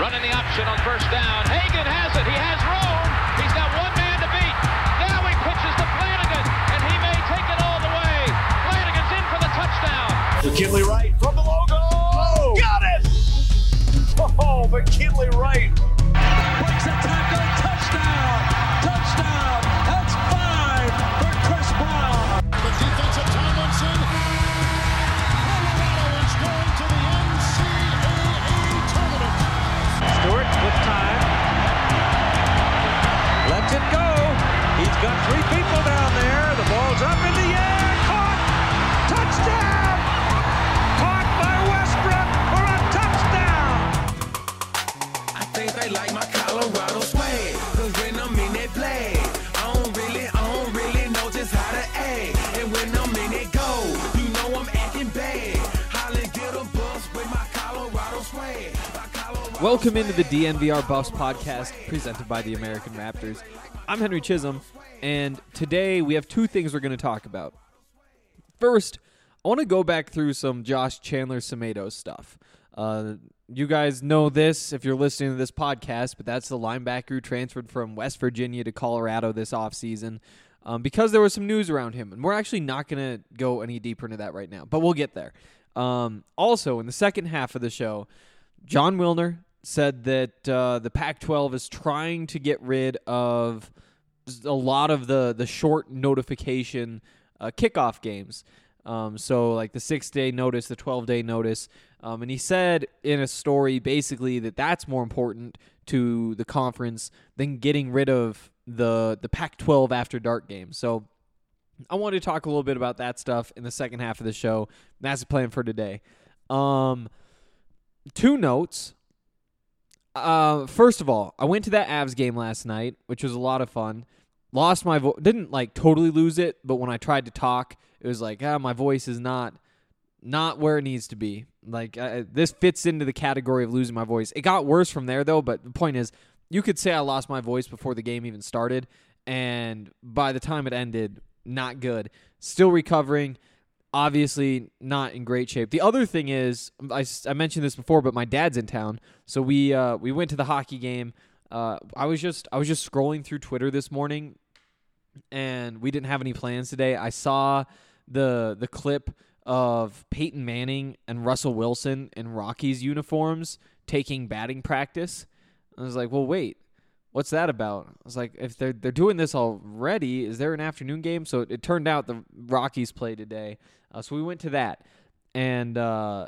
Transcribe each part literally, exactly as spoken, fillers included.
Running the option on first down. Hagan has it. He has room. He's got one man to beat. Now he pitches to Flanagan, and he may take it all the way. Flanagan's in for the touchdown. McKinley Wright from the logo. Oh, got it! Oh, McKinley Wright. Breaks a tackle. Touchdown. Touchdown. That's five for Chris Brown. The defensive Tomlinson. Colorado is going to the N C double A tournament. Stewart with time. Lets it go. He's got three people down there. The ball's up in the air. Caught. Touchdown. Caught by Westbrook for a touchdown. I think they like my Colorado swag. Cause when I'm in that play, I don't really, I don't really know just how to act. And when I'm in it go, you know I'm acting bad. Holly get a bus with my Colorado swag. My Colorado Welcome into the D N V R Buffs podcast presented by the American Raptors. I'm Henry Chisholm, and today we have two things we're going to talk about. First, I want to go back through some Josh Chandler-Semedo stuff. Uh, you guys know this if you're listening to this podcast, but that's the linebacker who transferred from West Virginia to Colorado this offseason um, because there was some news around him. And we're actually not going to go any deeper into that right now, but we'll get there. Um, also, in the second half of the show, John Wilner said that uh, the Pac twelve is trying to get rid of a lot of the, the short notification uh, kickoff games. Um, so like the six-day notice, the twelve-day notice. Um, and he said in a story basically that that's more important to the conference than getting rid of the, the Pac twelve after dark games. So I wanted to talk a little bit about that stuff in the second half of the show. That's the plan for today. Um, two notes. Uh, first of all, I went to that Avs game last night, which was a lot of fun. Lost my voice. Didn't like totally lose it, but when I tried to talk, it was like, ah, my voice is not not where it needs to be. Like uh, this fits into the category of losing my voice. It got worse from there though, but the point is, you could say I lost my voice before the game even started, and by the time it ended, not good. Still recovering. Obviously not in great shape. The other thing is, I, I mentioned this before, but my dad's in town, so we uh, we went to the hockey game. Uh, I was just I was just scrolling through Twitter this morning, and we didn't have any plans today. I saw the the clip of Peyton Manning and Russell Wilson in Rockies uniforms taking batting practice. I was like, well, wait. What's that about? I was like, if they're they're doing this already, is there an afternoon game? So it, it turned out the Rockies play today, uh, so we went to that, and uh,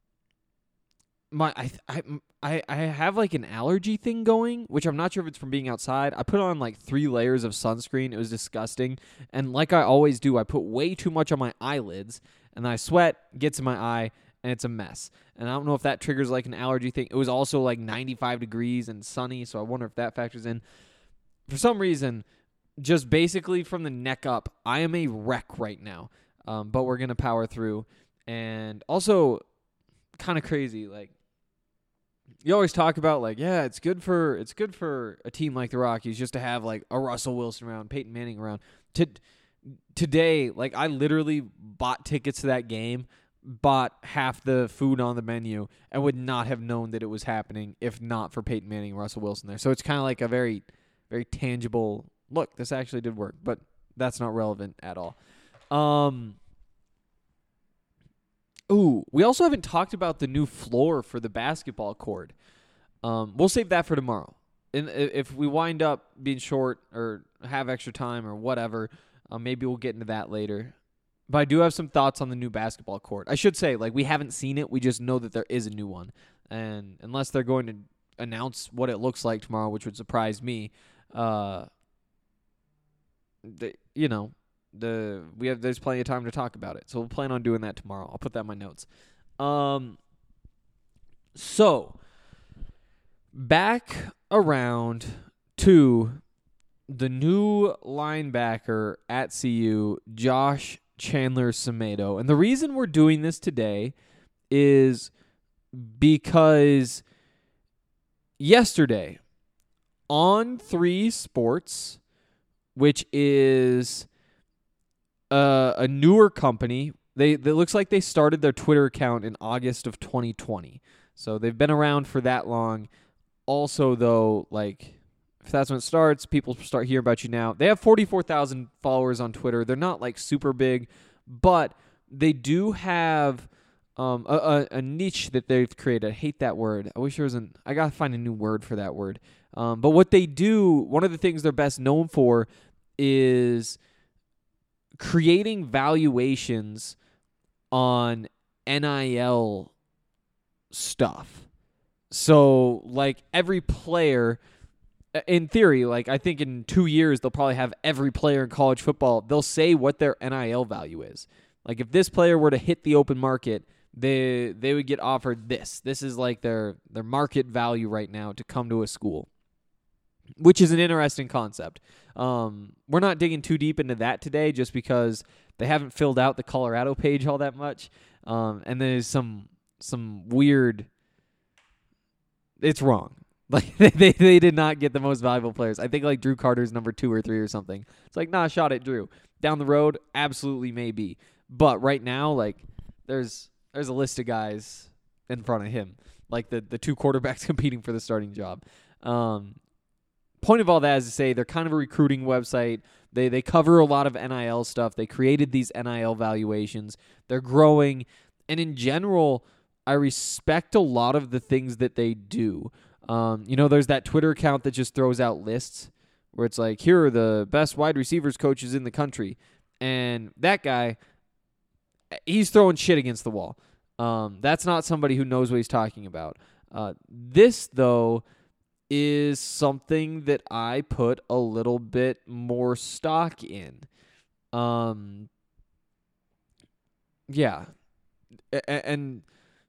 my I, I I have like an allergy thing going, which I'm not sure if it's from being outside. I put on like three layers of sunscreen. It was disgusting, and like I always do, I put way too much on my eyelids, and then I sweat, gets in my eye, and it's a mess. And I don't know if that triggers like an allergy thing. It was also like ninety-five degrees and sunny, so I wonder if that factors in. For some reason, just basically from the neck up, I am a wreck right now. Um, but we're going to power through. And also, kind of crazy, like, you always talk about like, yeah, it's good for it's good for a team like the Rockies just to have like a Russell Wilson around, Peyton Manning around. To, today, like I literally bought tickets to that game, bought half the food on the menu, and would not have known that it was happening if not for Peyton Manning and Russell Wilson there. So it's kind of like a very, very tangible look. This actually did work, but that's not relevant at all. Um. Ooh, we also haven't talked about the new floor for the basketball court. Um, we'll save that for tomorrow. And if we wind up being short or have extra time or whatever, uh, maybe we'll get into that later. But I do have some thoughts on the new basketball court. I should say, like, we haven't seen it. We just know that there is a new one. And unless they're going to announce what it looks like tomorrow, which would surprise me, uh, the, you know, the we have there's plenty of time to talk about it. So we'll plan on doing that tomorrow. I'll put that in my notes. Um, so, back around to the new linebacker at C U, Josh Chandler-Semedo. And the reason we're doing this today is because yesterday on three Sports, which is uh, a newer company, they it looks like they started their Twitter account in August of twenty twenty. So they've been around for that long. also, though, like, if that's when it starts, people start hearing about you now. They have forty-four thousand followers on Twitter. They're not, like, super big, but they do have um, a, a, a niche that they've created. I hate that word. I wish there was an... I got to find a new word for that word. Um, but what they do, one of the things they're best known for is creating valuations on N I L stuff. So, like, every player, in theory, like, I think in two years, they'll probably have every player in college football. They'll say what their N I L value is. Like, if this player were to hit the open market, they they would get offered this. This is, like, their, their market value right now to come to a school, which is an interesting concept. Um, we're not digging too deep into that today just because they haven't filled out the Colorado page all that much. Um, and there's some some weird... It's wrong. Like, they, they they did not get the most valuable players. I think, like, Drew Carter's number two or three or something. It's like, nah, shot at Drew. Down the road, absolutely maybe. But right now, like, there's there's a list of guys in front of him. Like, the, the two quarterbacks competing for the starting job. Um, point of all that is to say they're kind of a recruiting website. They they cover a lot of N I L stuff. They created these N I L valuations. They're growing. And in general, I respect a lot of the things that they do. Um, you know, there's that Twitter account that just throws out lists where it's like, here are the best wide receivers coaches in the country. And that guy, he's throwing shit against the wall. Um, that's not somebody who knows what he's talking about. Uh, this, though, is something that I put a little bit more stock in. Um, yeah. A- and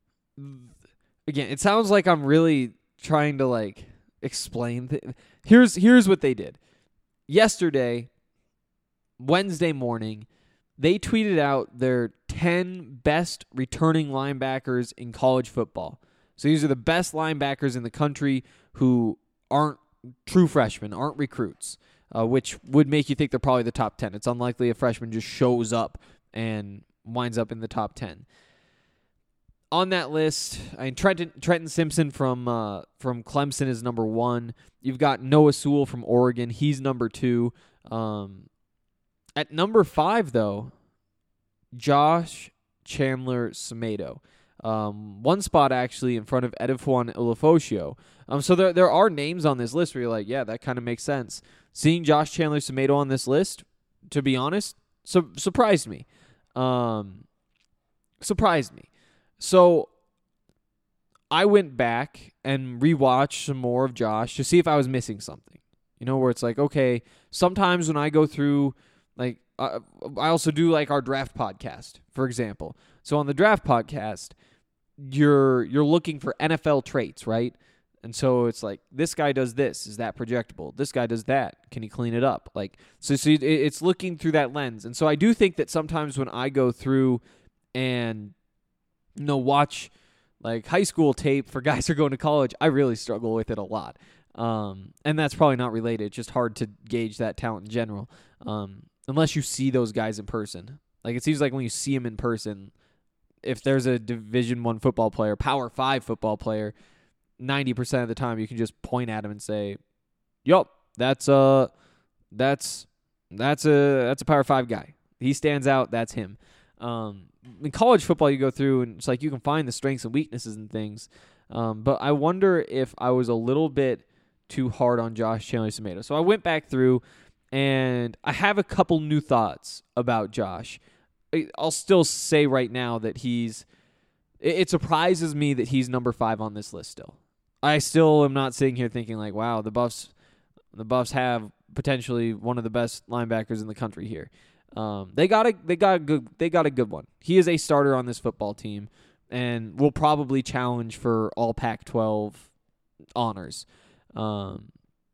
again, it sounds like I'm really trying to, like, explain. Th- here's here's what they did. Yesterday, Wednesday morning, they tweeted out their ten best returning linebackers in college football. So these are the best linebackers in the country who aren't true freshmen, aren't recruits, uh, which would make you think they're probably the top ten. It's unlikely a freshman just shows up and winds up in the top ten. On that list, I mean, Trenton, Trenton Simpson from uh, from Clemson is number one. You've got Noah Sewell from Oregon. He's number two. Um, at number five, though, Josh Chandler Semedo. Um, one spot actually in front of Edifuan Ilufosio. Um, so there there are names on this list where you're like, yeah, that kind of makes sense. Seeing Josh Chandler Semedo on this list, to be honest, su- surprised me. Um, surprised me. So I went back and rewatched some more of Josh to see if I was missing something. You know, where it's like, okay, sometimes when I go through, like, uh, I also do, like, our draft podcast, for example. So on the draft podcast, you're you're looking for N F L traits, right? And so it's like, this guy does this. Is that projectable? This guy does that. Can he clean it up? Like, so, so it's looking through that lens. And so I do think that sometimes when I go through and, you know, watch, like, high school tape for guys who are going to college, I really struggle with it a lot. Um, and that's probably not related. It's just hard to gauge that talent in general, um, unless you see those guys in person. Like, it seems like when you see them in person, if there's a Division One football player, Power Five football player, ninety percent of the time you can just point at him and say, "Yup, that's a that's that's a that's a Power Five guy. He stands out. That's him." Um, in college football, you go through and it's like you can find the strengths and weaknesses and things. Um, but I wonder if I was a little bit too hard on Josh Chandler Semedo. So I went back through and I have a couple new thoughts about Josh. I'll still say right now that he's, it surprises me that he's number five on this list still. I still am not sitting here thinking like, wow, the Buffs, the Buffs have potentially one of the best linebackers in the country here. Um, they got a, they got a good, they got a good one. He is a starter on this football team and will probably challenge for all Pac twelve honors. Um,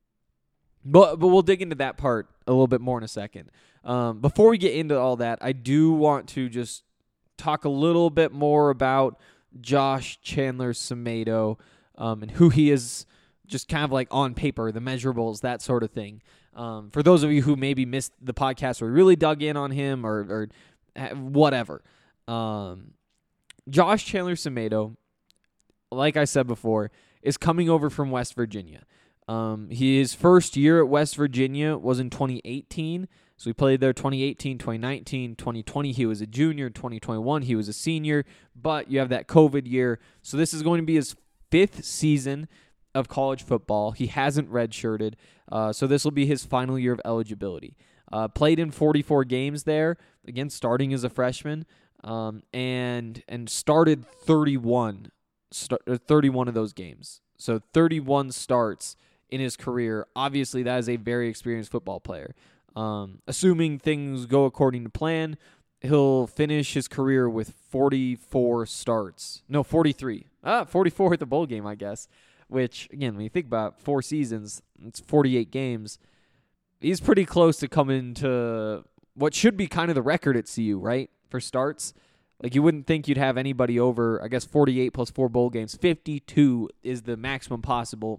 but, but we'll dig into that part a little bit more in a second. Um, before we get into all that, I do want to just talk a little bit more about Josh Chandler Semedo um, and who he is, just kind of like on paper, the measurables, that sort of thing. Um, for those of you who maybe missed the podcast or really dug in on him or, or whatever, um, Josh Chandler Semedo, like I said before, is coming over from West Virginia. Um, his first year at West Virginia was in twenty eighteen. So he played there twenty eighteen, twenty nineteen, twenty twenty. He was a junior. twenty twenty-one, he was a senior. But you have that COVID year. So this is going to be his fifth season of college football. He hasn't redshirted. Uh, so this will be his final year of eligibility. Uh, played in forty-four games there, again, starting as a freshman, um, and and started thirty-one, start, thirty-one of those games. So thirty-one starts in his career. Obviously, that is a very experienced football player. Um, assuming things go according to plan, he'll finish his career with forty-four starts. No, forty-three. Ah, forty-four at the bowl game, I guess. Which, again, when you think about four seasons, it's forty-eight games. He's pretty close to coming to what should be kind of the record at C U, right, for starts. Like, you wouldn't think you'd have anybody over, I guess, forty-eight plus four bowl games. fifty-two is the maximum possible.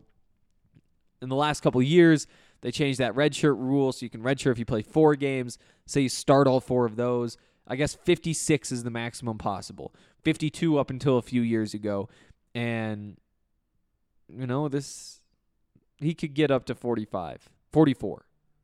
In the last couple of years, they changed that redshirt rule, so you can redshirt if you play four games. Say you start all four of those. I guess fifty-six is the maximum possible. fifty-two up until a few years ago. And, you know, this, he could get up to forty-five, forty-four.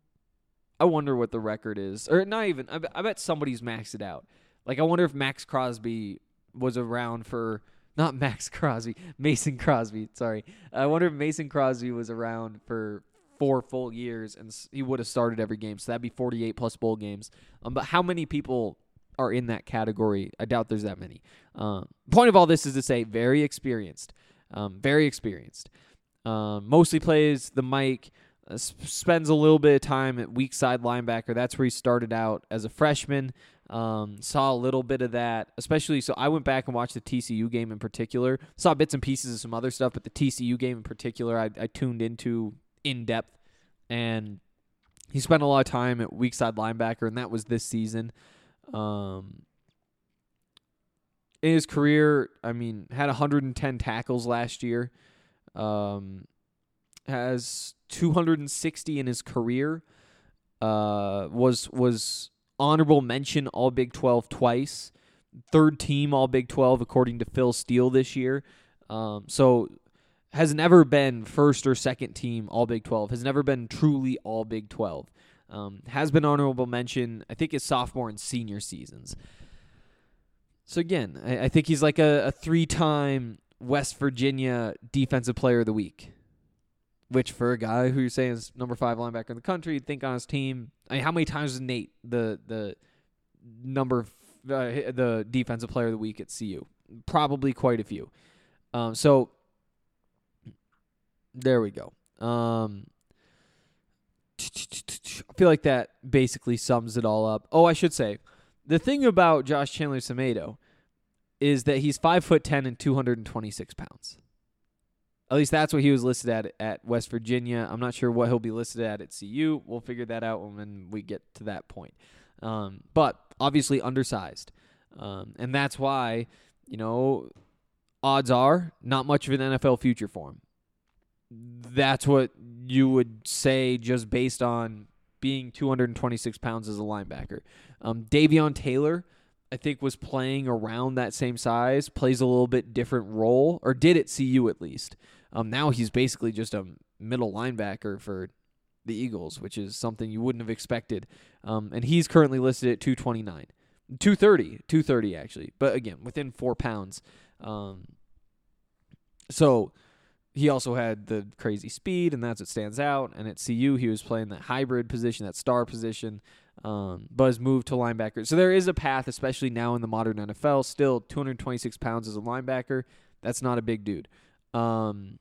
I wonder what the record is. Or not even, I bet, I bet somebody's maxed it out. Like, I wonder if Max Crosby was around for, not Max Crosby, Mason Crosby, sorry. I wonder if Mason Crosby was around for four full years and he would have started every game. So that'd be forty-eight plus bowl games. Um, but how many people are in that category? I doubt there's that many. Um, point of all this is to say very experienced. Um, very experienced. Um, mostly plays the mic. Uh, spends a little bit of time at weak side linebacker. That's where he started out as a freshman. Um, saw a little bit of that, especially. So I went back and watched the T C U game in particular. Saw bits and pieces of some other stuff, but the T C U game in particular, I, I tuned into in depth. And he spent a lot of time at weak side linebacker, and that was this season. Um, in his career, I mean, had one hundred ten tackles last year. Um, has two hundred sixty in his career. Uh, was was honorable mention All Big twelve twice. Third team All Big twelve according to Phil Steele this year. Um, so has never been first or second team All Big twelve. Has never been truly All Big twelve. Um, has been honorable mention, I think, his sophomore and senior seasons. So again, I, I think he's like a, a three-time West Virginia Defensive Player of the Week. Which for a guy who you're saying is number five linebacker in the country, you'd think on his team. I mean, how many times was Nate the the number uh, the Defensive Player of the Week at C U? Probably quite a few. Um, so there we go. Um, I feel like that basically sums it all up. Oh, I should say, the thing about Josh Chandler-Semedo is that he's five foot ten and two hundred twenty-six pounds. At least that's what he was listed at at West Virginia. I'm not sure what he'll be listed at at C U. We'll figure that out when we get to that point. Um, but obviously undersized. Um, and that's why, you know, odds are not much of an N F L future for him. That's what you would say just based on being two hundred twenty-six pounds as a linebacker. Um, Davion Taylor, I think, was playing around that same size, plays a little bit different role, or did at C U at least. Um, now he's basically just a middle linebacker for the Eagles, which is something you wouldn't have expected. Um, and he's currently listed at two twenty-nine. two thirty, two thirty actually. But again, within four pounds. Um, so he also had the crazy speed, and that's what stands out. And at C U, he was playing that hybrid position, that star position. Um, but has moved to linebacker. So there is a path, especially now in the modern N F L. Still, two hundred twenty-six pounds as a linebacker. That's not a big dude. Um,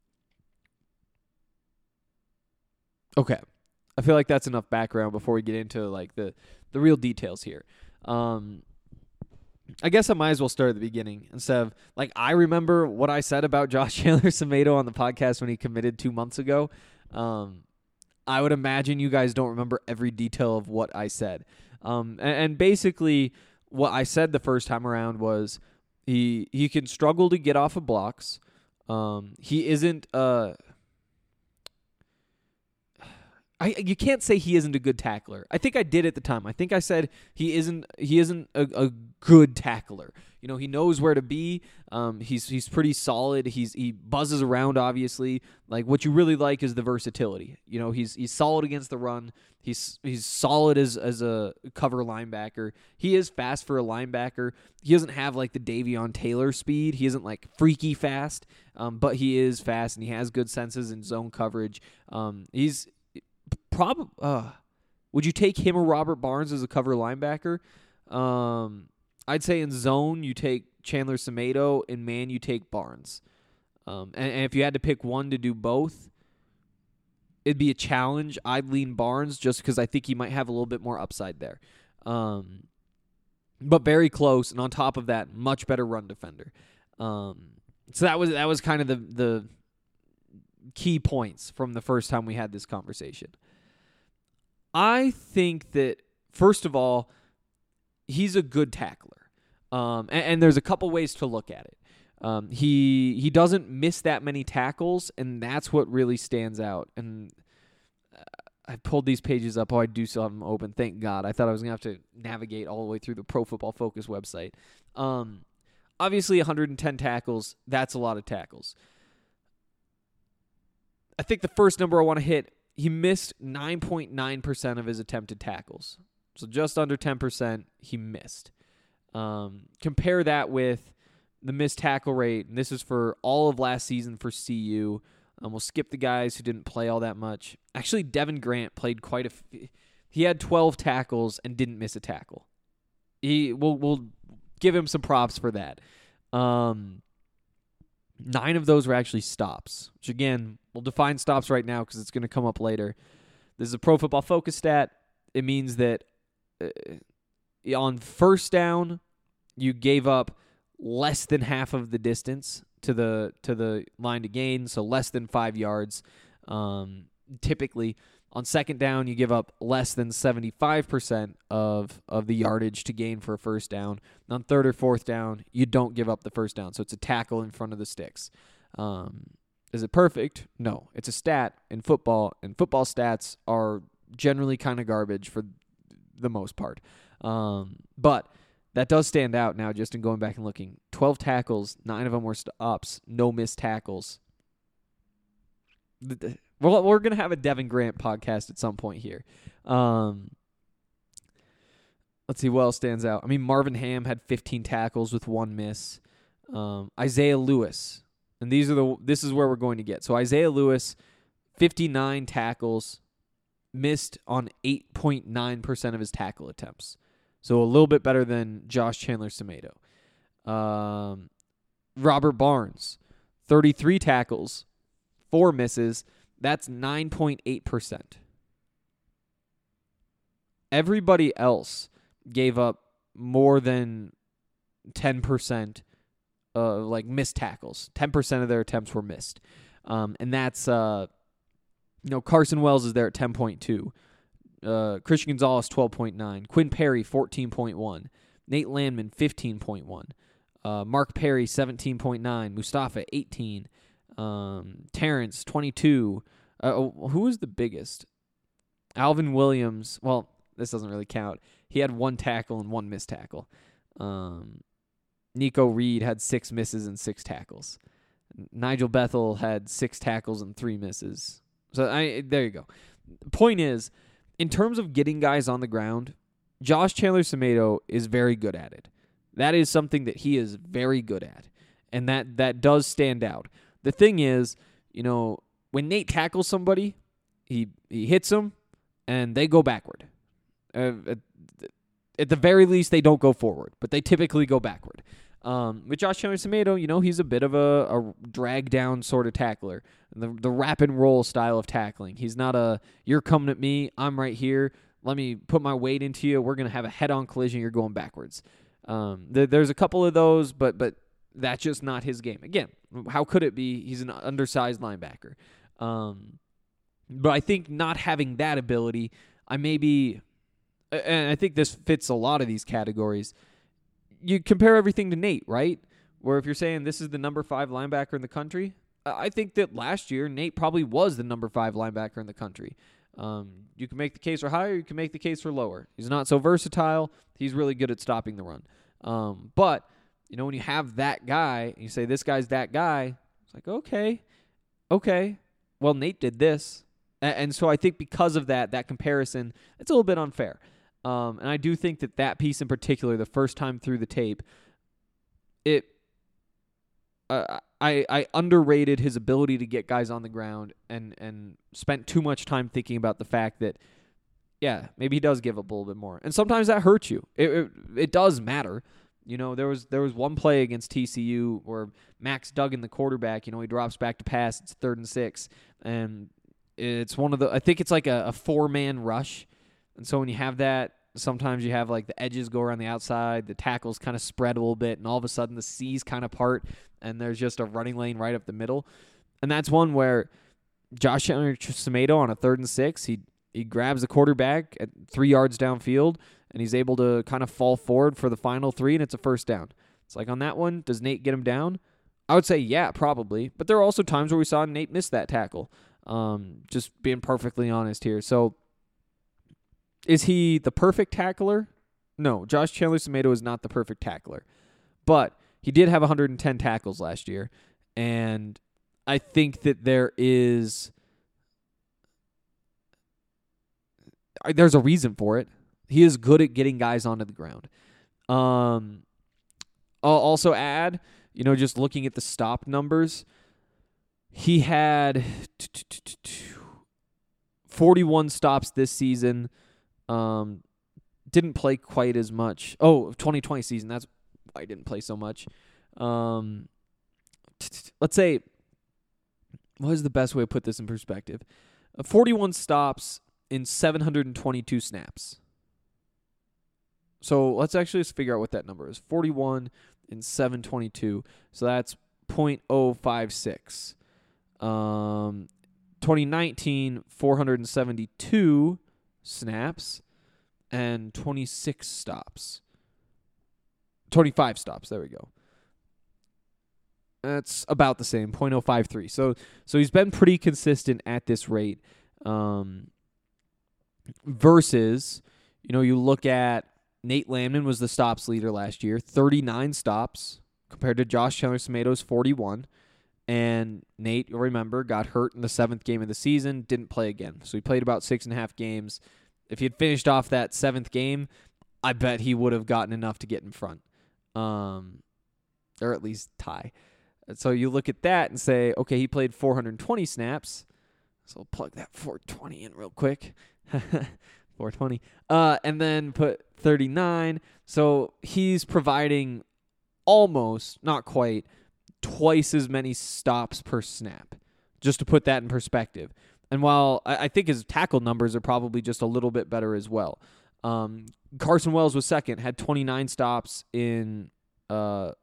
okay. I feel like that's enough background before we get into like the, the real details here. Um, I guess I might as well start at the beginning instead of, like, I remember what I said about Josh Chandler-Semedo on the podcast when he committed two months ago. Um, I would imagine you guys don't remember every detail of what I said. Um, and, and basically what I said the first time around was he he can struggle to get off of blocks. Um, he isn't uh I you can't say he isn't a good tackler. I think I did at the time. I think I said he isn't he isn't a, a good tackler. You know, he knows where to be. Um, he's he's pretty solid. He's he buzzes around, obviously. Like, what you really like is the versatility. You know, he's he's solid against the run. He's he's solid as as a cover linebacker. He is fast for a linebacker. He doesn't have like the Davion Taylor speed. He isn't like freaky fast, um, but he is fast and he has good senses in zone coverage. Um, he's probably. Uh, would you take him or Robert Barnes as a cover linebacker? Um, I'd say in zone you take Chandler Semedo. In man you take Barnes. Um, and, and if you had to pick one to do both, it'd be a challenge. I'd lean Barnes just because I think he might have a little bit more upside there. Um, but very close, and on top of that, much better run defender. Um, so that was that was kind of the the key points from the first time we had this conversation. I think that, first of all, he's a good tackler. Um, and, and there's a couple ways to look at it. Um, he he doesn't miss that many tackles, and that's what really stands out. And uh, I pulled these pages up. Oh, I do still have them open. Thank God. I thought I was going to have to navigate all the way through the Pro Football Focus website. Um, obviously, one hundred ten tackles, that's a lot of tackles. I think the first number I want to hit, he missed nine point nine percent of his attempted tackles. So just under ten percent he missed. Um, compare that with the missed tackle rate, and this is for all of last season for C U. Um, we'll skip the guys who didn't play all that much. Actually, Devin Grant played quite a f- he had twelve tackles and didn't miss a tackle. He we'll, we'll give him some props for that. Um, nine of those were actually stops, which again, we'll define stops right now because it's going to come up later. This is a Pro Football Focus stat. It means that uh, on first down, you gave up less than half of the distance to the to the line to gain, so less than five yards. Um, typically, on second down, you give up less than seventy-five percent of, of the yardage to gain for a first down. And on third or fourth down, you don't give up the first down, so it's a tackle in front of the sticks. Um, is it perfect? No. It's a stat in football, and football stats are generally kind of garbage for the most part. Um, but that does stand out now just in going back and looking. twelve tackles, nine of them were stops, no missed tackles. We're, we're going to have a Devin Grant podcast at some point here. Um, let's see what else stands out. I mean, Marvin Ham had fifteen tackles with one miss. Um, Isaiah Lewis, and these are the this is where we're going to get. So Isaiah Lewis, fifty-nine tackles, missed on eight point nine percent of his tackle attempts. So a little bit better than Josh Chandler-Semedo. Um, Robert Barnes, thirty-three tackles, four misses. That's nine point eight percent. Everybody else gave up more than ten percent uh, like missed tackles. ten percent of their attempts were missed. Um, and that's, uh, you know, Carson Wells is there at ten point two. Uh, Christian Gonzalez, twelve point nine. Quinn Perry, fourteen point one. Nate Landman, fifteen point one. Uh, Mark Perry, seventeen point nine. Mustafa, eighteen. Um, Terrence, twenty-two. Uh, who was the biggest? Alvin Williams. Well, this doesn't really count. He had one tackle and one missed tackle. Um, Nico Reed had six misses and six tackles. Nigel Bethel had six tackles and three misses. So I there you go. Point is, in terms of getting guys on the ground, Josh Chandler-Semedo is very good at it. That is something that he is very good at, and that, that does stand out. The thing is, you know, when Nate tackles somebody, he he hits them, and they go backward. Uh, at, at the very least, they don't go forward, but they typically go backward. Um, with Josh Chandler-Semedo, you know, he's a bit of a, a drag-down sort of tackler, the the wrap and roll style of tackling. He's not a, you're coming at me, I'm right here, let me put my weight into you, we're going to have a head-on collision, you're going backwards. Um, th- there's a couple of those, but but that's just not his game. Again, how could it be? He's an undersized linebacker. Um, but I think not having that ability, I maybe, and I think this fits a lot of these categories, you compare everything to Nate, right? Where if you're saying this is the number five linebacker in the country, I think that last year Nate probably was the number five linebacker in the country. Um, you can make the case for higher, you can make the case for lower. He's not so versatile. He's really good at stopping the run. Um, but, you know, when you have that guy, and you say this guy's that guy, it's like, okay, okay. Well, Nate did this. And, and so I think because of that, that comparison, it's a little bit unfair. Um, and I do think that that piece in particular, the first time through the tape, it uh, I I underrated his ability to get guys on the ground and, and spent too much time thinking about the fact that, yeah, maybe he does give up a little bit more. And sometimes that hurts you. It it, it does matter. You know, there was there was one play against T C U where Max Duggan, the quarterback, you know, he drops back to pass. It's third and six. And it's one of the, I think it's like a, a four-man rush. And so when you have that, sometimes you have like the edges go around the outside, the tackles kind of spread a little bit, and all of a sudden the C's kind of part, and there's just a running lane right up the middle. And that's one where Josh Chandler-Semedo on a third and six, he he grabs the quarterback at three yards downfield, and he's able to kind of fall forward for the final three, and it's a first down. It's like on that one, does Nate get him down? I would say yeah, probably. But there are also times where we saw Nate miss that tackle. Um, just being perfectly honest here. So is he the perfect tackler? No, Josh Chandler-Semedo is not the perfect tackler. But he did have one hundred ten tackles last year, and I think that there is there's a reason for it. He is good at getting guys onto the ground. Um, I'll also add, you know, just looking at the stop numbers, he had forty-one stops this season. Um, didn't play quite as much. Oh, twenty twenty season. That's why he didn't play so much. Um, let's say, what is the best way to put this in perspective? Uh, forty-one stops in seven hundred twenty-two snaps. So let's actually just figure out what that number is. forty-one in seven twenty-two. So that's point oh five six. Um, twenty nineteen, four hundred seventy-two snaps and twenty-six stops. twenty-five stops. There we go. That's about the same, point oh five three. So so he's been pretty consistent at this rate. Um, versus, you know, you look at Nate Landman was the stops leader last year, thirty-nine stops compared to Josh Chandler-Semedo's forty-one. And Nate, you'll remember, got hurt in the seventh game of the season, didn't play again. So he played about six and a half games. If he had finished off that seventh game, I bet he would have gotten enough to get in front, um, or at least tie. So you look at that and say, okay, he played four hundred twenty snaps. So I'll plug that four twenty in real quick. four twenty. Uh, and then put thirty-nine. So he's providing almost, not quite, twice as many stops per snap, just to put that in perspective. And while I, I think his tackle numbers are probably just a little bit better as well. Um, Carson Wells was second, had twenty-nine stops in uh,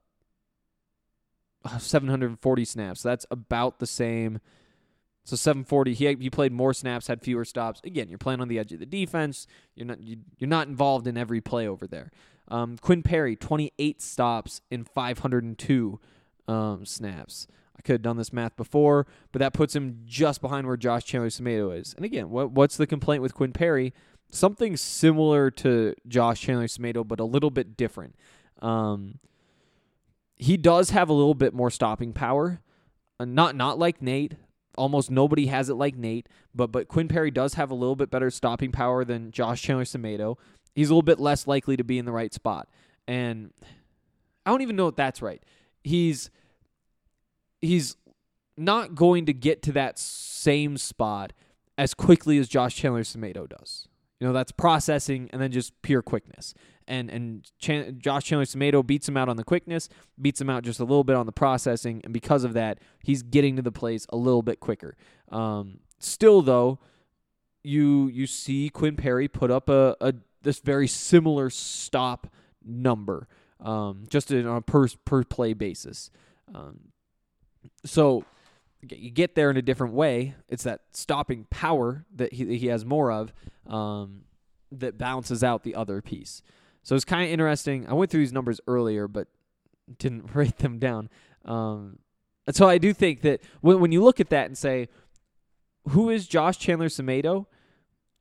seven hundred forty snaps. That's about the same. So seven forty, he he played more snaps, had fewer stops. Again, you're playing on the edge of the defense. You're not you, you're not involved in every play over there. Um, Quinn Perry, twenty-eight stops in five hundred two um, snaps. I could have done this math before, but that puts him just behind where Josh Chandler-Semedo is. And again, what what's the complaint with Quinn Perry? Something similar to Josh Chandler-Semedo, but a little bit different. Um, he does have a little bit more stopping power. Uh, not not like Nate. Almost nobody has it like Nate, but but Quinn Perry does have a little bit better stopping power than Josh Chandler-Semedo. He's a little bit less likely to be in the right spot. And I don't even know if that's right. He's he's not going to get to that same spot as quickly as Josh Chandler-Semedo does. You know, that's processing and then just pure quickness. And and Chan- Josh Chandler-Semedo beats him out on the quickness, beats him out just a little bit on the processing, and because of that, he's getting to the plays a little bit quicker. Um, still, though, you you see Quinn Perry put up a, a this very similar stop number, um, just on a per per play basis. Um, so you get there in a different way. It's that stopping power that he he has more of um, that balances out the other piece. So it's kind of interesting. I went through these numbers earlier, but didn't write them down. Um, and so I do think that when when you look at that and say, who is Josh Chandler-Semedo?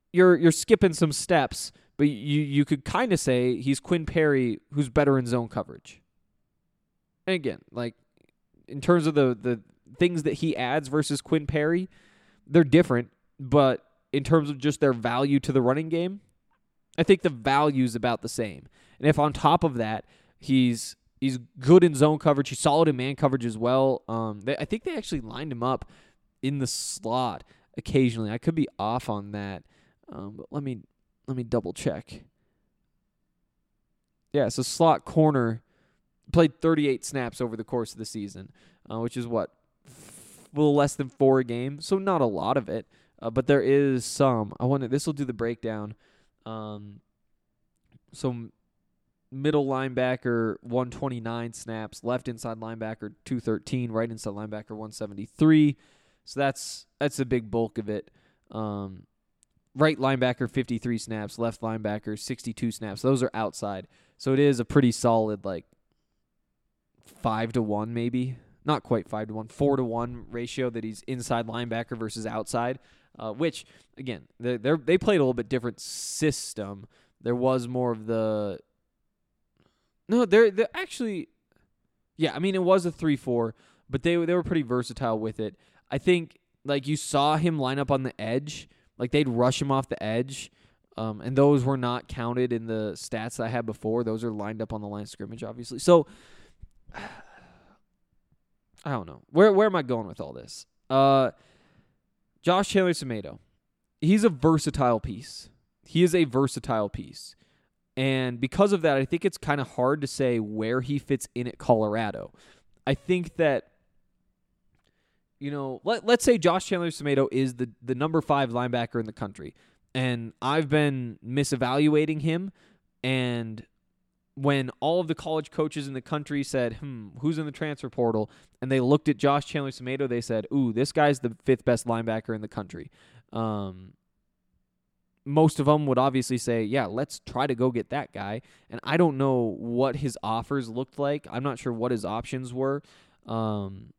you're you're skipping some steps, but you you could kind of say he's Quinn Perry who's better in zone coverage. And again, like in terms of the the things that he adds versus Quinn Perry, they're different, but in terms of just their value to the running game, I think the value is about the same. And if on top of that, he's he's good in zone coverage, he's solid in man coverage as well. Um, they, I think they actually lined him up in the slot occasionally. I could be off on that, um, but let me let me double check. Yeah, so slot corner played thirty-eight snaps over the course of the season, uh, which is what f- a little less than four a game, so not a lot of it, uh, but there is some. I wonder this will do the breakdown. Um, so middle linebacker one twenty-nine snaps, left inside linebacker two thirteen, right inside linebacker one seventy-three. So that's that's a big bulk of it. Um, right linebacker fifty-three snaps, left linebacker sixty-two snaps. Those are outside. So it is a pretty solid like five to one maybe. Not quite five to one, four to one ratio that he's inside linebacker versus outside. Uh, which again, they they they played a little bit different system. There was more of the no, they're they actually, yeah. I mean, it was a three four, but they they were pretty versatile with it. I think like you saw him line up on the edge, like they'd rush him off the edge, um, and those were not counted in the stats that I had before. Those are lined up on the line of scrimmage, obviously. So I don't know where where am I going with all this? Uh. Josh Chandler-Semedo, he's a versatile piece. He is a versatile piece. And because of that, I think it's kind of hard to say where he fits in at Colorado. I think that, you know, let, let's say Josh Chandler-Semedo is the, the number five linebacker in the country. And I've been misevaluating him. And when all of the college coaches in the country said, hmm, who's in the transfer portal? And they looked at Josh Chandler-Semedo, they said, ooh, this guy's the fifth best linebacker in the country. Um, most of them would obviously say, yeah, let's try to go get that guy. And I don't know what his offers looked like. I'm not sure what his options were. Um,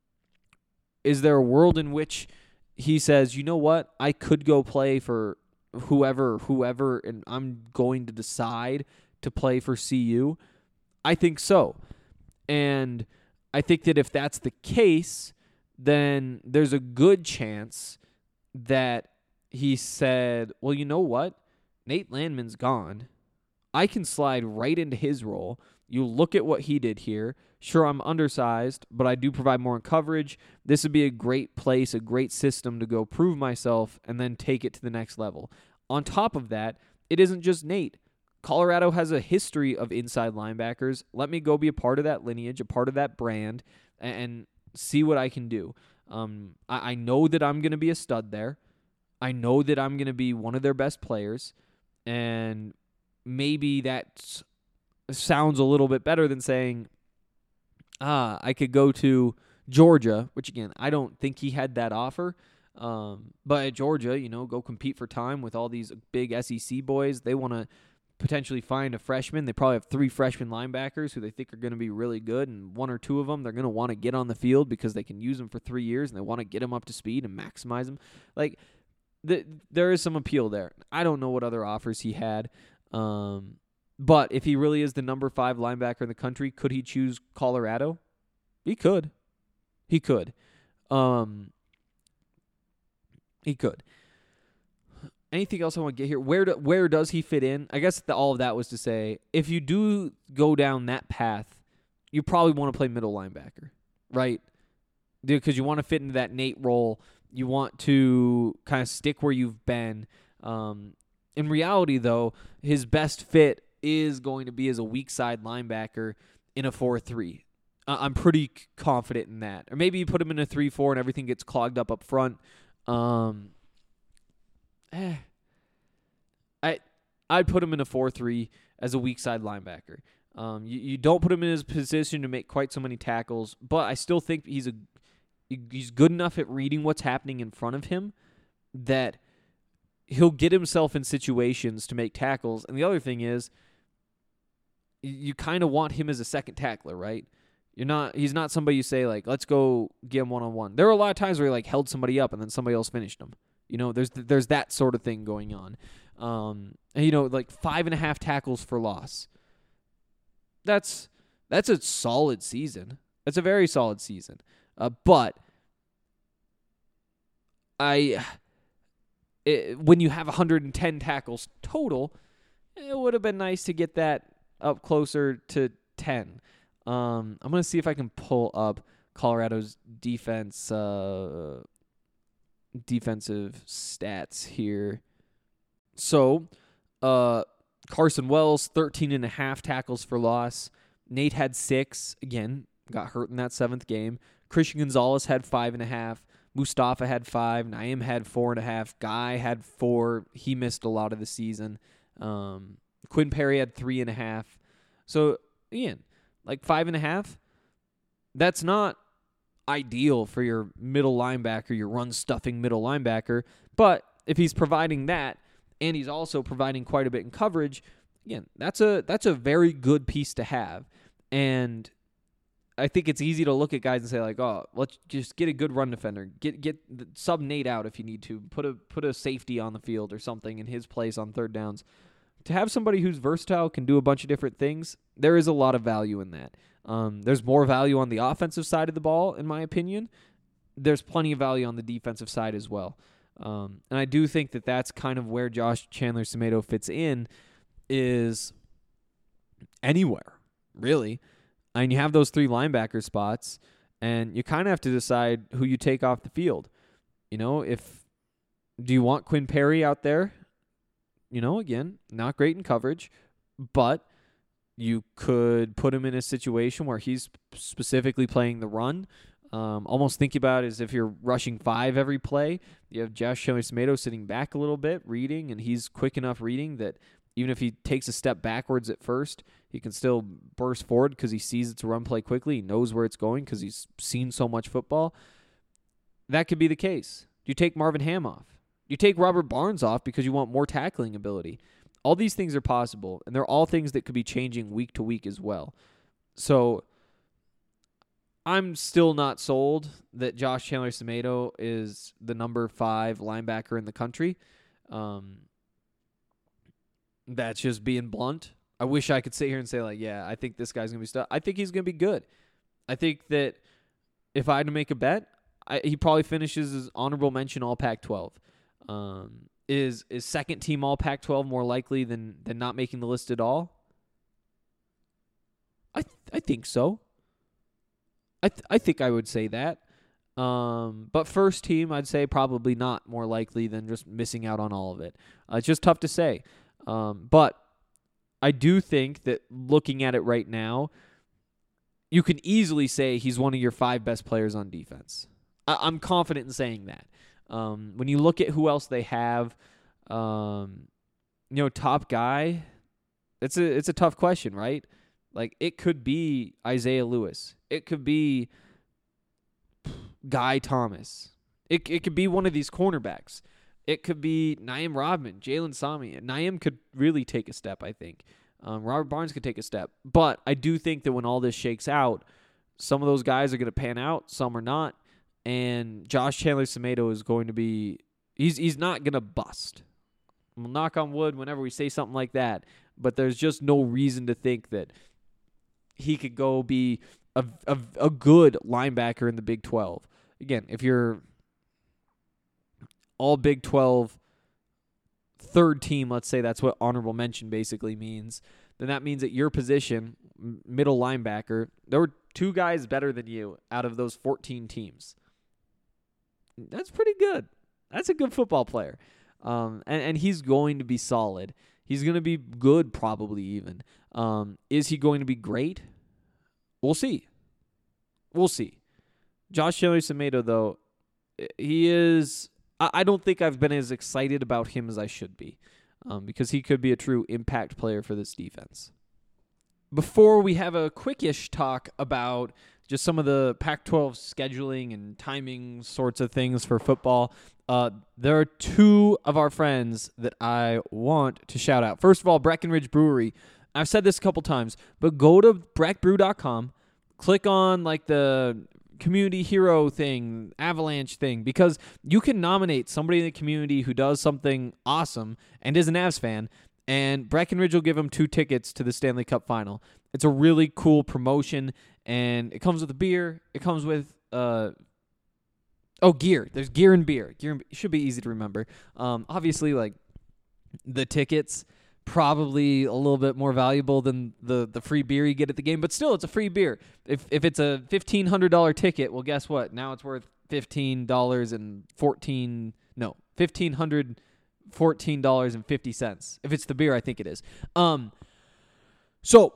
is there a world in which he says, you know what, I could go play for whoever, whoever, and I'm going to decide to play for C U? I think so. And I think that if that's the case, then there's a good chance that he said, well, you know what? Nate Landman's gone. I can slide right into his role. You look at what he did here. Sure, I'm undersized, but I do provide more in coverage. This would be a great place, a great system to go prove myself and then take it to the next level. On top of that, it isn't just Nate. Colorado has a history of inside linebackers. Let me go be a part of that lineage, a part of that brand, and see what I can do. Um, I, I know that I'm going to be a stud there. I know that I'm going to be one of their best players, and maybe that sounds a little bit better than saying, ah, I could go to Georgia, which, again, I don't think he had that offer. Um, but at Georgia, you know, go compete for time with all these big S E C boys. They want to potentially find a freshman. They probably have three freshman linebackers who they think are going to be really good, and one or two of them they're going to want to get on the field because they can use them for three years, and they want to get them up to speed and maximize them. Like, the, there is some appeal there. I don't know what other offers he had, um, but if he really is the number five linebacker in the country, could he choose Colorado? He could. He could. Um, he could. Anything else I want to get here? Where do, where does he fit in? I guess the, all of that was to say, if you do go down that path, you probably want to play middle linebacker, right? Because you want to fit into that Nate role. You want to kind of stick where you've been. Um, in reality, though, his best fit is going to be as a weak side linebacker in a four three. Uh, I'm pretty confident in that. Or maybe you put him in a three four and everything gets clogged up up front. Um... Eh, I I'd put him in a four three as a weak side linebacker. Um, you, you don't put him in his position to make quite so many tackles, but I still think he's a he's good enough at reading what's happening in front of him that he'll get himself in situations to make tackles. And the other thing is, you, you kind of want him as a second tackler, right? You're not. He's not somebody you say like, let's go get him one on one. There were a lot of times where he like held somebody up and then somebody else finished him. You know, there's there's that sort of thing going on. Um, and, you know, like five and a half tackles for loss. That's that's a solid season. That's a very solid season. Uh, but I, it, when you have one hundred ten tackles total, it would have been nice to get that up closer to ten. Um, I'm going to see if I can pull up Colorado's defense, uh, defensive stats here. So, uh, Carson Wells, thirteen and a half tackles for loss. Nate had six. Again, got hurt in that seventh game. Christian Gonzalez had five and a half. Mustafa had five. Naeem had four and a half. Guy had four. He missed a lot of the season. Um, Quinn Perry had three and a half. So, again, like five and a half, that's not ideal for your middle linebacker, your run-stuffing middle linebacker. But if he's providing that, and he's also providing quite a bit in coverage, again, that's a that's a very good piece to have. And I think it's easy to look at guys and say, like, oh, let's just get a good run defender. Get get the, sub Nate out if you need to. Put a put a safety on the field or something in his place on third downs. To have somebody who's versatile, can do a bunch of different things, there is a lot of value in that. Um, there's more value on the offensive side of the ball, in my opinion. There's plenty of value on the defensive side as well. Um, and I do think that that's kind of where Josh Chandler-Semedo fits in, is anywhere, really. I mean, you have those three linebacker spots, and you kind of have to decide who you take off the field. You know, if do you want Quinn Perry out there? You know, again, not great in coverage, but you could put him in a situation where he's specifically playing the run. Um, almost think about it as if you're rushing five every play. You have Josh Chandler-Semedo sitting back a little bit, reading, and he's quick enough reading that even if he takes a step backwards at first, he can still burst forward because he sees it's a run play quickly. He knows where it's going because he's seen so much football. That could be the case. Do you take Marvin Ham off? Do you take Robert Barnes off because you want more tackling ability? All these things are possible, and they're all things that could be changing week to week as well. So I'm still not sold that Josh Chandler-Semedo is the number five linebacker in the country. Um, that's just being blunt. I wish I could sit here and say, like, yeah, I think this guy's going to be stuff. I think he's going to be good. I think that if I had to make a bet, I, he probably finishes as honorable mention all Pac twelve. Um, is is second team all Pac twelve more likely than, than not making the list at all? I th- I think so. I th- I think I would say that. Um, but first team, I'd say probably not more likely than just missing out on all of it. Uh, it's just tough to say. Um, but I do think that looking at it right now, you can easily say he's one of your five best players on defense. I- I'm confident in saying that. Um, when you look at who else they have, um, you know, top guy, it's a it's a tough question, right? Like, it could be Isaiah Lewis. It could be Guy Thomas. It it could be one of these cornerbacks. It could be Naeem Rodman, Jalen Sami. Naeem could really take a step, I think. Um, Robert Barnes could take a step. But I do think that when all this shakes out, some of those guys are going to pan out, some are not. And Josh Chandler-Semedo is going to be he's he's not going to bust. We'll knock on wood whenever we say something like that, but there's just no reason to think that he could go be a, a, a good linebacker in the Big twelve. Again, if you're all Big twelve third team, let's say that's what honorable mention basically means, then that means at your position, middle linebacker, there were two guys better than you out of those fourteen teams. That's pretty good. That's a good football player. Um, and, and he's going to be solid. He's going to be good probably even. Um, is he going to be great? We'll see. We'll see. Josh Chandler-Semedo, though, he is... I, I don't think I've been as excited about him as I should be um, because he could be a true impact player for this defense. Before we have a quickish talk about just some of the Pac twelve scheduling and timing sorts of things for football, uh, there are two of our friends that I want to shout out. First of all, Breckenridge Brewery. I've said this a couple times, but go to breck brew dot com, click on like the community hero thing, Avalanche thing, because you can nominate somebody in the community who does something awesome and is an Avs fan, and Breckenridge will give them two tickets to the Stanley Cup Final. It's a really cool promotion, and it comes with a beer. It comes with uh oh gear. There's gear and beer. Gear and be- should be easy to remember. Um, obviously, like the tickets. Probably a little bit more valuable than the, the free beer you get at the game, but still, it's a free beer. If if it's a fifteen hundred dollars ticket, well, guess what? Now it's worth fifteen dollars and fourteen no fifteen hundred fourteen dollars and fifty cents. If it's the beer, I think it is. Um, so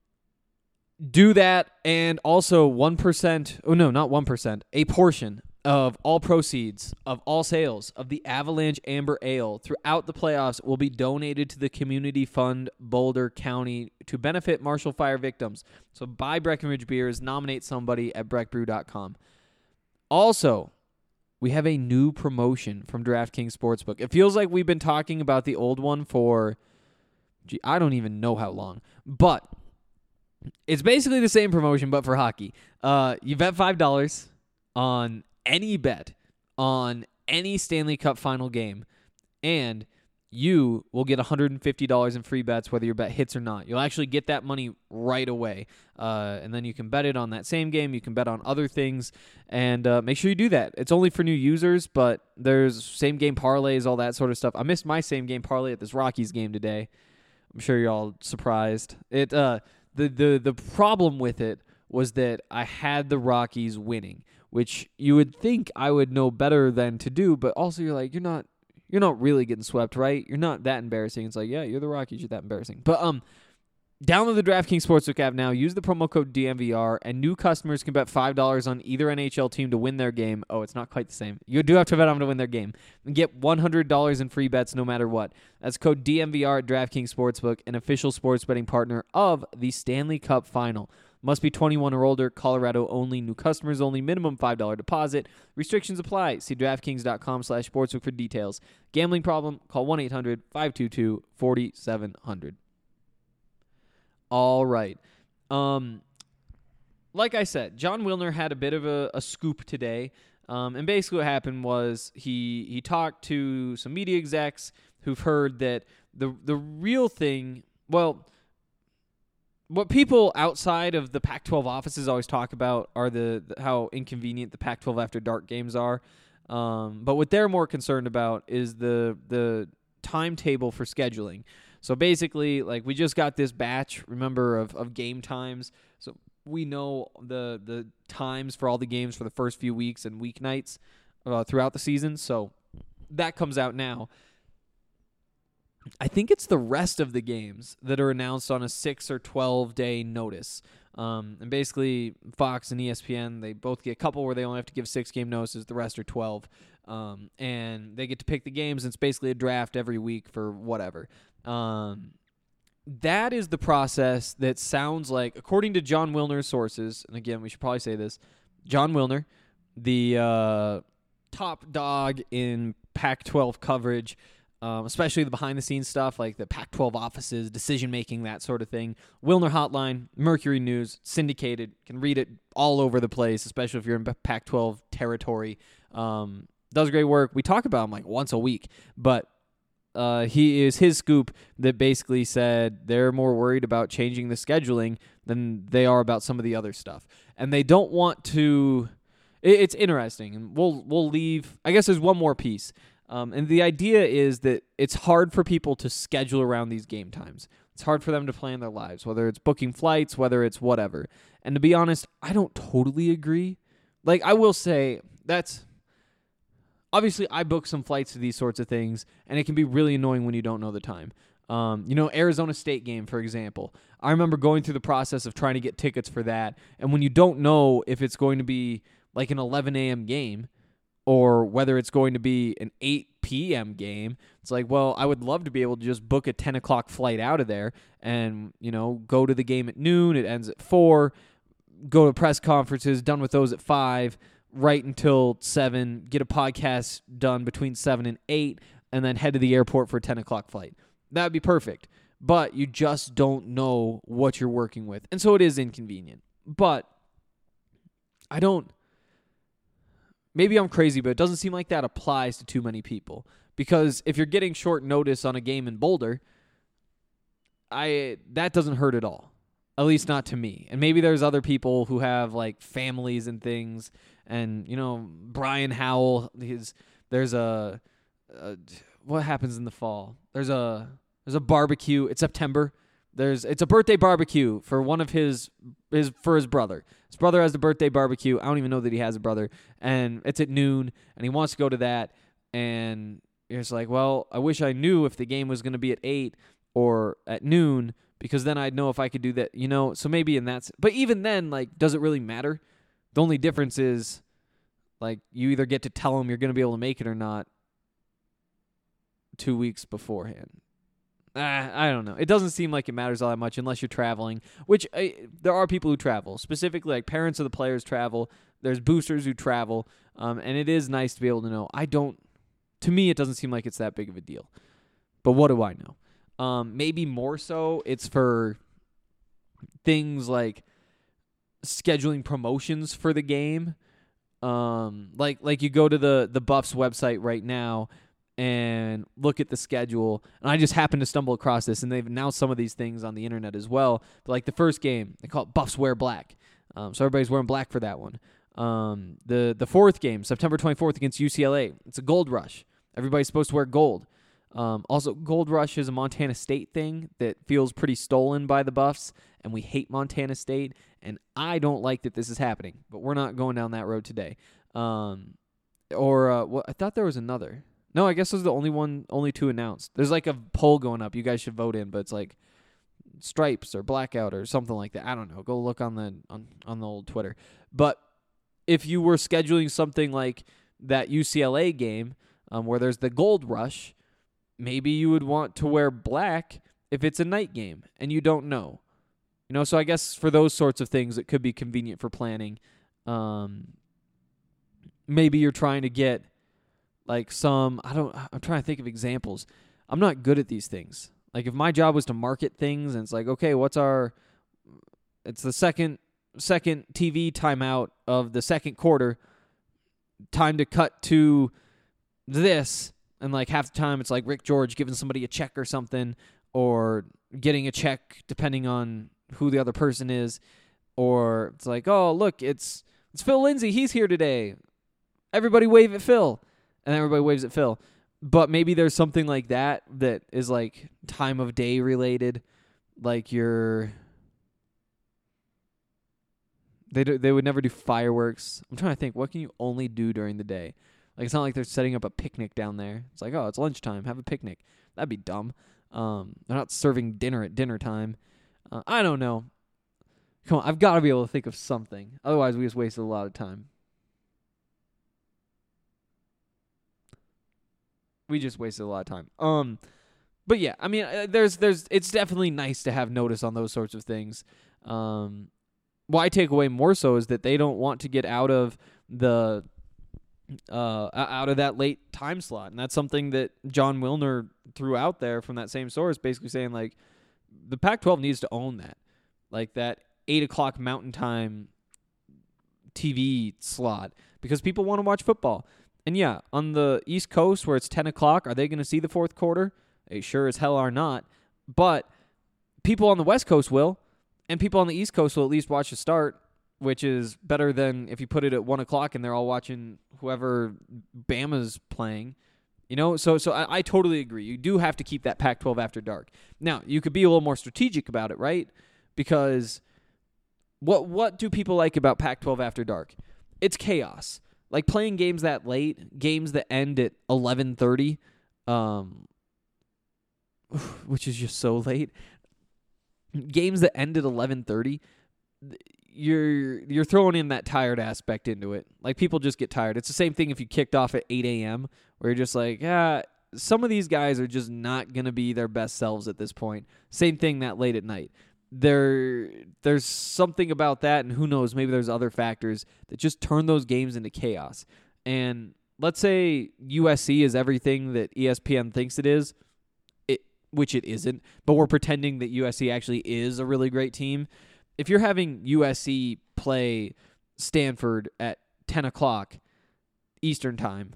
do that, and also one percent. Oh no, not one percent. A portion of all proceeds of all sales of the Avalanche Amber Ale throughout the playoffs will be donated to the Community Fund Boulder County to benefit Marshall Fire victims. So buy Breckenridge beers, nominate somebody at breck brew dot com. Also, we have a new promotion from DraftKings Sportsbook. It feels like we've been talking about the old one for, gee, I don't even know how long, but it's basically the same promotion, but for hockey. Uh, you bet five dollars on any bet on any Stanley Cup final game, and you will get one hundred fifty dollars in free bets whether your bet hits or not. You'll actually get that money right away, uh, and then you can bet it on that same game. You can bet on other things, and uh, make sure you do that. It's only for new users, but there's same-game parlays, all that sort of stuff. I missed my same-game parlay at this Rockies game today. I'm sure you're all surprised. It uh, the, the, the problem with it was that I had the Rockies winning, which you would think I would know better than to do, but also you're like, you're not you're not really getting swept, right? You're not that embarrassing. It's like, yeah, you're the Rockies, you're that embarrassing. But um, download the DraftKings Sportsbook app now, use the promo code D M V R, and new customers can bet five dollars on either N H L team to win their game. Oh, it's not quite the same. You do have to bet on them to win their game. And get one hundred dollars in free bets no matter what. That's code D M V R at DraftKings Sportsbook, an official sports betting partner of the Stanley Cup Final. Must be twenty-one or older. Colorado only. New customers only. Minimum five dollars deposit. Restrictions apply. See DraftKings.com slash sportsbook for details. Gambling problem? Call one eight hundred five two two four seven zero zero. All right. Um, like I said, John Wilner had a bit of a, a scoop today. Um, and basically what happened was he he talked to some media execs who've heard that the the real thing, well, what people outside of the Pac twelve offices always talk about are the, the how inconvenient the Pac twelve after dark games are. Um, but what they're more concerned about is the the timetable for scheduling. So basically, like, we just got this batch, remember, of, of game times. So we know the the times for all the games for the first few weeks and weeknights uh, throughout the season. So that comes out now. I think it's the rest of the games that are announced on a six or twelve day notice. Um, and basically, Fox and E S P N, they both get a couple where they only have to give six game notices. The rest are twelve. Um, and they get to pick the games. And it's basically a draft every week for whatever. Um, that is the process that sounds like, according to John Wilner's sources, and again, we should probably say this, John Wilner, the uh, top dog in Pac twelve coverage, Um, especially the behind-the-scenes stuff, like the Pac twelve offices, decision-making, that sort of thing. Wilner Hotline, Mercury News, syndicated. Can read it all over the place, especially if you're in Pac twelve territory. Um, does great work. We talk about him like once a week, but uh, he is his scoop that basically said they're more worried about changing the scheduling than they are about some of the other stuff. And they don't want to... It, it's interesting, and we'll we'll leave... I guess there's one more piece. Um, and the idea is that it's hard for people to schedule around these game times. It's hard for them to plan their lives, whether it's booking flights, whether it's whatever. And to be honest, I don't totally agree. Like, I will say, that's... Obviously, I book some flights to these sorts of things, and it can be really annoying when you don't know the time. Um, you know, Arizona State game, for example. I remember going through the process of trying to get tickets for that, and when you don't know if it's going to be like an eleven a.m. game, or whether it's going to be an eight p.m. game, it's like, well, I would love to be able to just book a ten o'clock flight out of there and, you know, go to the game at noon, it ends at four, go to press conferences, done with those at five, right until seven, get a podcast done between seven and eight, and then head to the airport for a ten o'clock flight. That would be perfect. But you just don't know what you're working with. And so it is inconvenient. But I don't... maybe I'm crazy, but it doesn't seem like that applies to too many people. Because if you're getting short notice on a game in Boulder, I that doesn't hurt at all. At least not to me. And maybe there's other people who have like families and things. And, you know, Brian Howell, his there's a, a what happens in the fall? There's a there's a barbecue. It's September. There's it's a birthday barbecue for one of his his for his brother. His brother has the birthday barbecue. I don't even know that he has a brother. And it's at noon and he wants to go to that. And it's like, well, I wish I knew if the game was going to be at eight or at noon, because then I'd know if I could do that, you know. So maybe in that, but even then, like, does it really matter? The only difference is, like, you either get to tell them you're going to be able to make it or not two weeks beforehand. Ah, I don't know. It doesn't seem like it matters all that much unless you're traveling, which uh, there are people who travel. Specifically, like, parents of the players travel. There's boosters who travel, um, and it is nice to be able to know. I don't, to me, it doesn't seem like it's that big of a deal. But what do I know? Um, maybe more so it's for things like scheduling promotions for the game. Um, like like you go to the, the Buffs website right now and look at the schedule. And I just happened to stumble across this, and they've announced some of these things on the internet as well. But like the first game, they call it Buffs Wear Black. Um, so everybody's wearing black for that one. Um, the, the fourth game, September twenty-fourth against U C L A. It's a gold rush. Everybody's supposed to wear gold. Um, also, Gold Rush is a Montana State thing that feels pretty stolen by the Buffs, and we hate Montana State, and I don't like that this is happening, but we're not going down that road today. Um, or, uh, well, I thought there was another. No, I guess this was the only one, only two announced. There's like a poll going up you guys should vote in, but it's like stripes or blackout or something like that. I don't know. Go look on the on, on the old Twitter. But if you were scheduling something like that U C L A game um, where there's the Gold Rush, maybe you would want to wear black if it's a night game and you don't know. You know, so I guess for those sorts of things, it could be convenient for planning. Um, maybe you're trying to get like some, I don't, I'm trying to think of examples. I'm not good at these things. Like if my job was to market things and it's like, okay, what's our, it's the second, second T V timeout of the second quarter, time to cut to this. And, like, half the time it's like Rick George giving somebody a check or something, or getting a check depending on who the other person is. Or it's like, oh, look, it's it's Phil Lindsay. He's here today. Everybody wave at Phil. And everybody waves at Phil. But maybe there's something like that that is, like, time of day related. Like you're... They, do, they would never do fireworks. I'm trying to think, what can you only do during the day? Like, it's not like they're setting up a picnic down there. It's like, oh, it's lunchtime. Have a picnic. That'd be dumb. Um, they're not serving dinner at dinner time. Uh, I don't know. Come on, I've got to be able to think of something. Otherwise, we just wasted a lot of time. We just wasted a lot of time. Um, but yeah, I mean, uh, there's, there's, it's definitely nice to have notice on those sorts of things. Um, what I take away more so is that they don't want to get out of the... Uh, out of that late time slot. And that's something that John Wilner threw out there from that same source, basically saying, like, the Pac twelve needs to own that. Like, that eight o'clock Mountain Time T V slot, because people want to watch football. And, yeah, on the East Coast where it's ten o'clock, are they going to see the fourth quarter? They sure as hell are not. But people on the West Coast will, and people on the East Coast will at least watch the start, which is better than if you put it at one o'clock and they're all watching whoever Bama's playing. You know, so so I, I totally agree. You do have to keep that Pac twelve after dark. Now, you could be a little more strategic about it, right? Because what what do people like about Pac twelve after dark? It's chaos. Like playing games that late, games that end at eleven thirty, um, which is just so late. Games that end at eleven thirty, you're you're throwing in that tired aspect into it. Like, people just get tired. It's the same thing if you kicked off at eight a.m., where you're just like, yeah, some of these guys are just not going to be their best selves at this point. Same thing that late at night. There, there's something about that, and who knows, maybe there's other factors that just turn those games into chaos. And let's say U S C is everything that E S P N thinks it is, it which it isn't, but we're pretending that U S C actually is a really great team. If you're having U S C play Stanford at ten o'clock, Eastern time,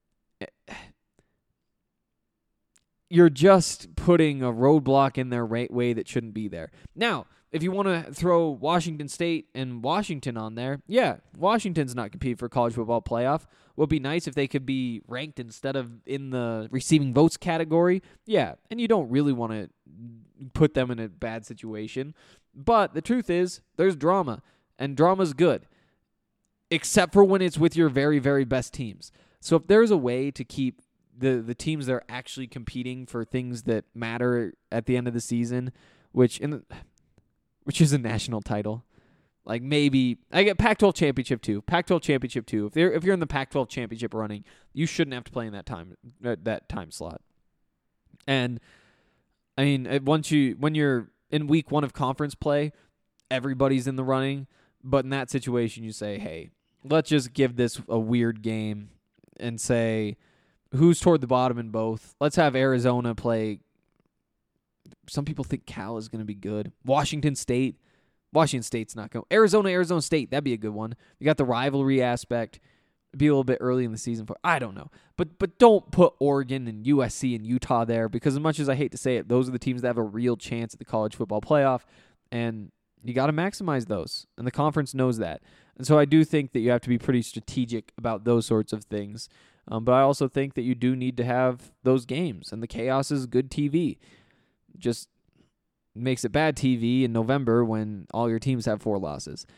you're just putting a roadblock in their right way that shouldn't be there. Now, if you want to throw Washington State and Washington on there, yeah, Washington's not competing for college football playoff. Would be nice if they could be ranked instead of in the receiving votes category. Yeah, and you don't really want to put them in a bad situation. But the truth is, there's drama, and drama's good, except for when it's with your very, very best teams. So if there's a way to keep the, the teams that are actually competing for things that matter at the end of the season, which in the, which is a national title, like maybe I get Pac twelve championship two, Pac twelve championship two. If they're if you're in the Pac twelve championship running, you shouldn't have to play in that time uh, that time slot. And I mean, once you when you're in week one of conference play, everybody's in the running. But in that situation, you say, hey, let's just give this a weird game and say who's toward the bottom in both. Let's have Arizona play. Some people think Cal is going to be good. Washington State. Washington State's not going. Arizona, Arizona State. That'd be a good one. You got the rivalry aspect. It'd be a little bit early in the season for. I don't know. But but don't put Oregon and U S C and Utah there, because as much as I hate to say it, those are the teams that have a real chance at the college football playoff. And you got to maximize those. And the conference knows that. And so I do think that you have to be pretty strategic about those sorts of things. Um, but I also think that you do need to have those games. And the chaos is good T V. Just makes it bad T V in November when all your teams have four losses.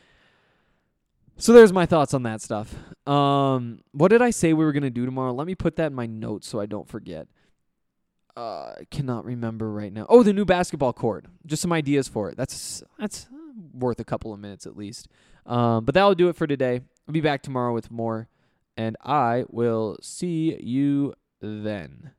So there's my thoughts on that stuff. Um, what did I say we were going to do tomorrow? Let me put that in my notes so I don't forget. Uh, I cannot remember right now. Oh, the new basketball court. Just some ideas for it. That's that's worth a couple of minutes at least. Um, but that'll do it for today. I'll be back tomorrow with more, and I will see you then.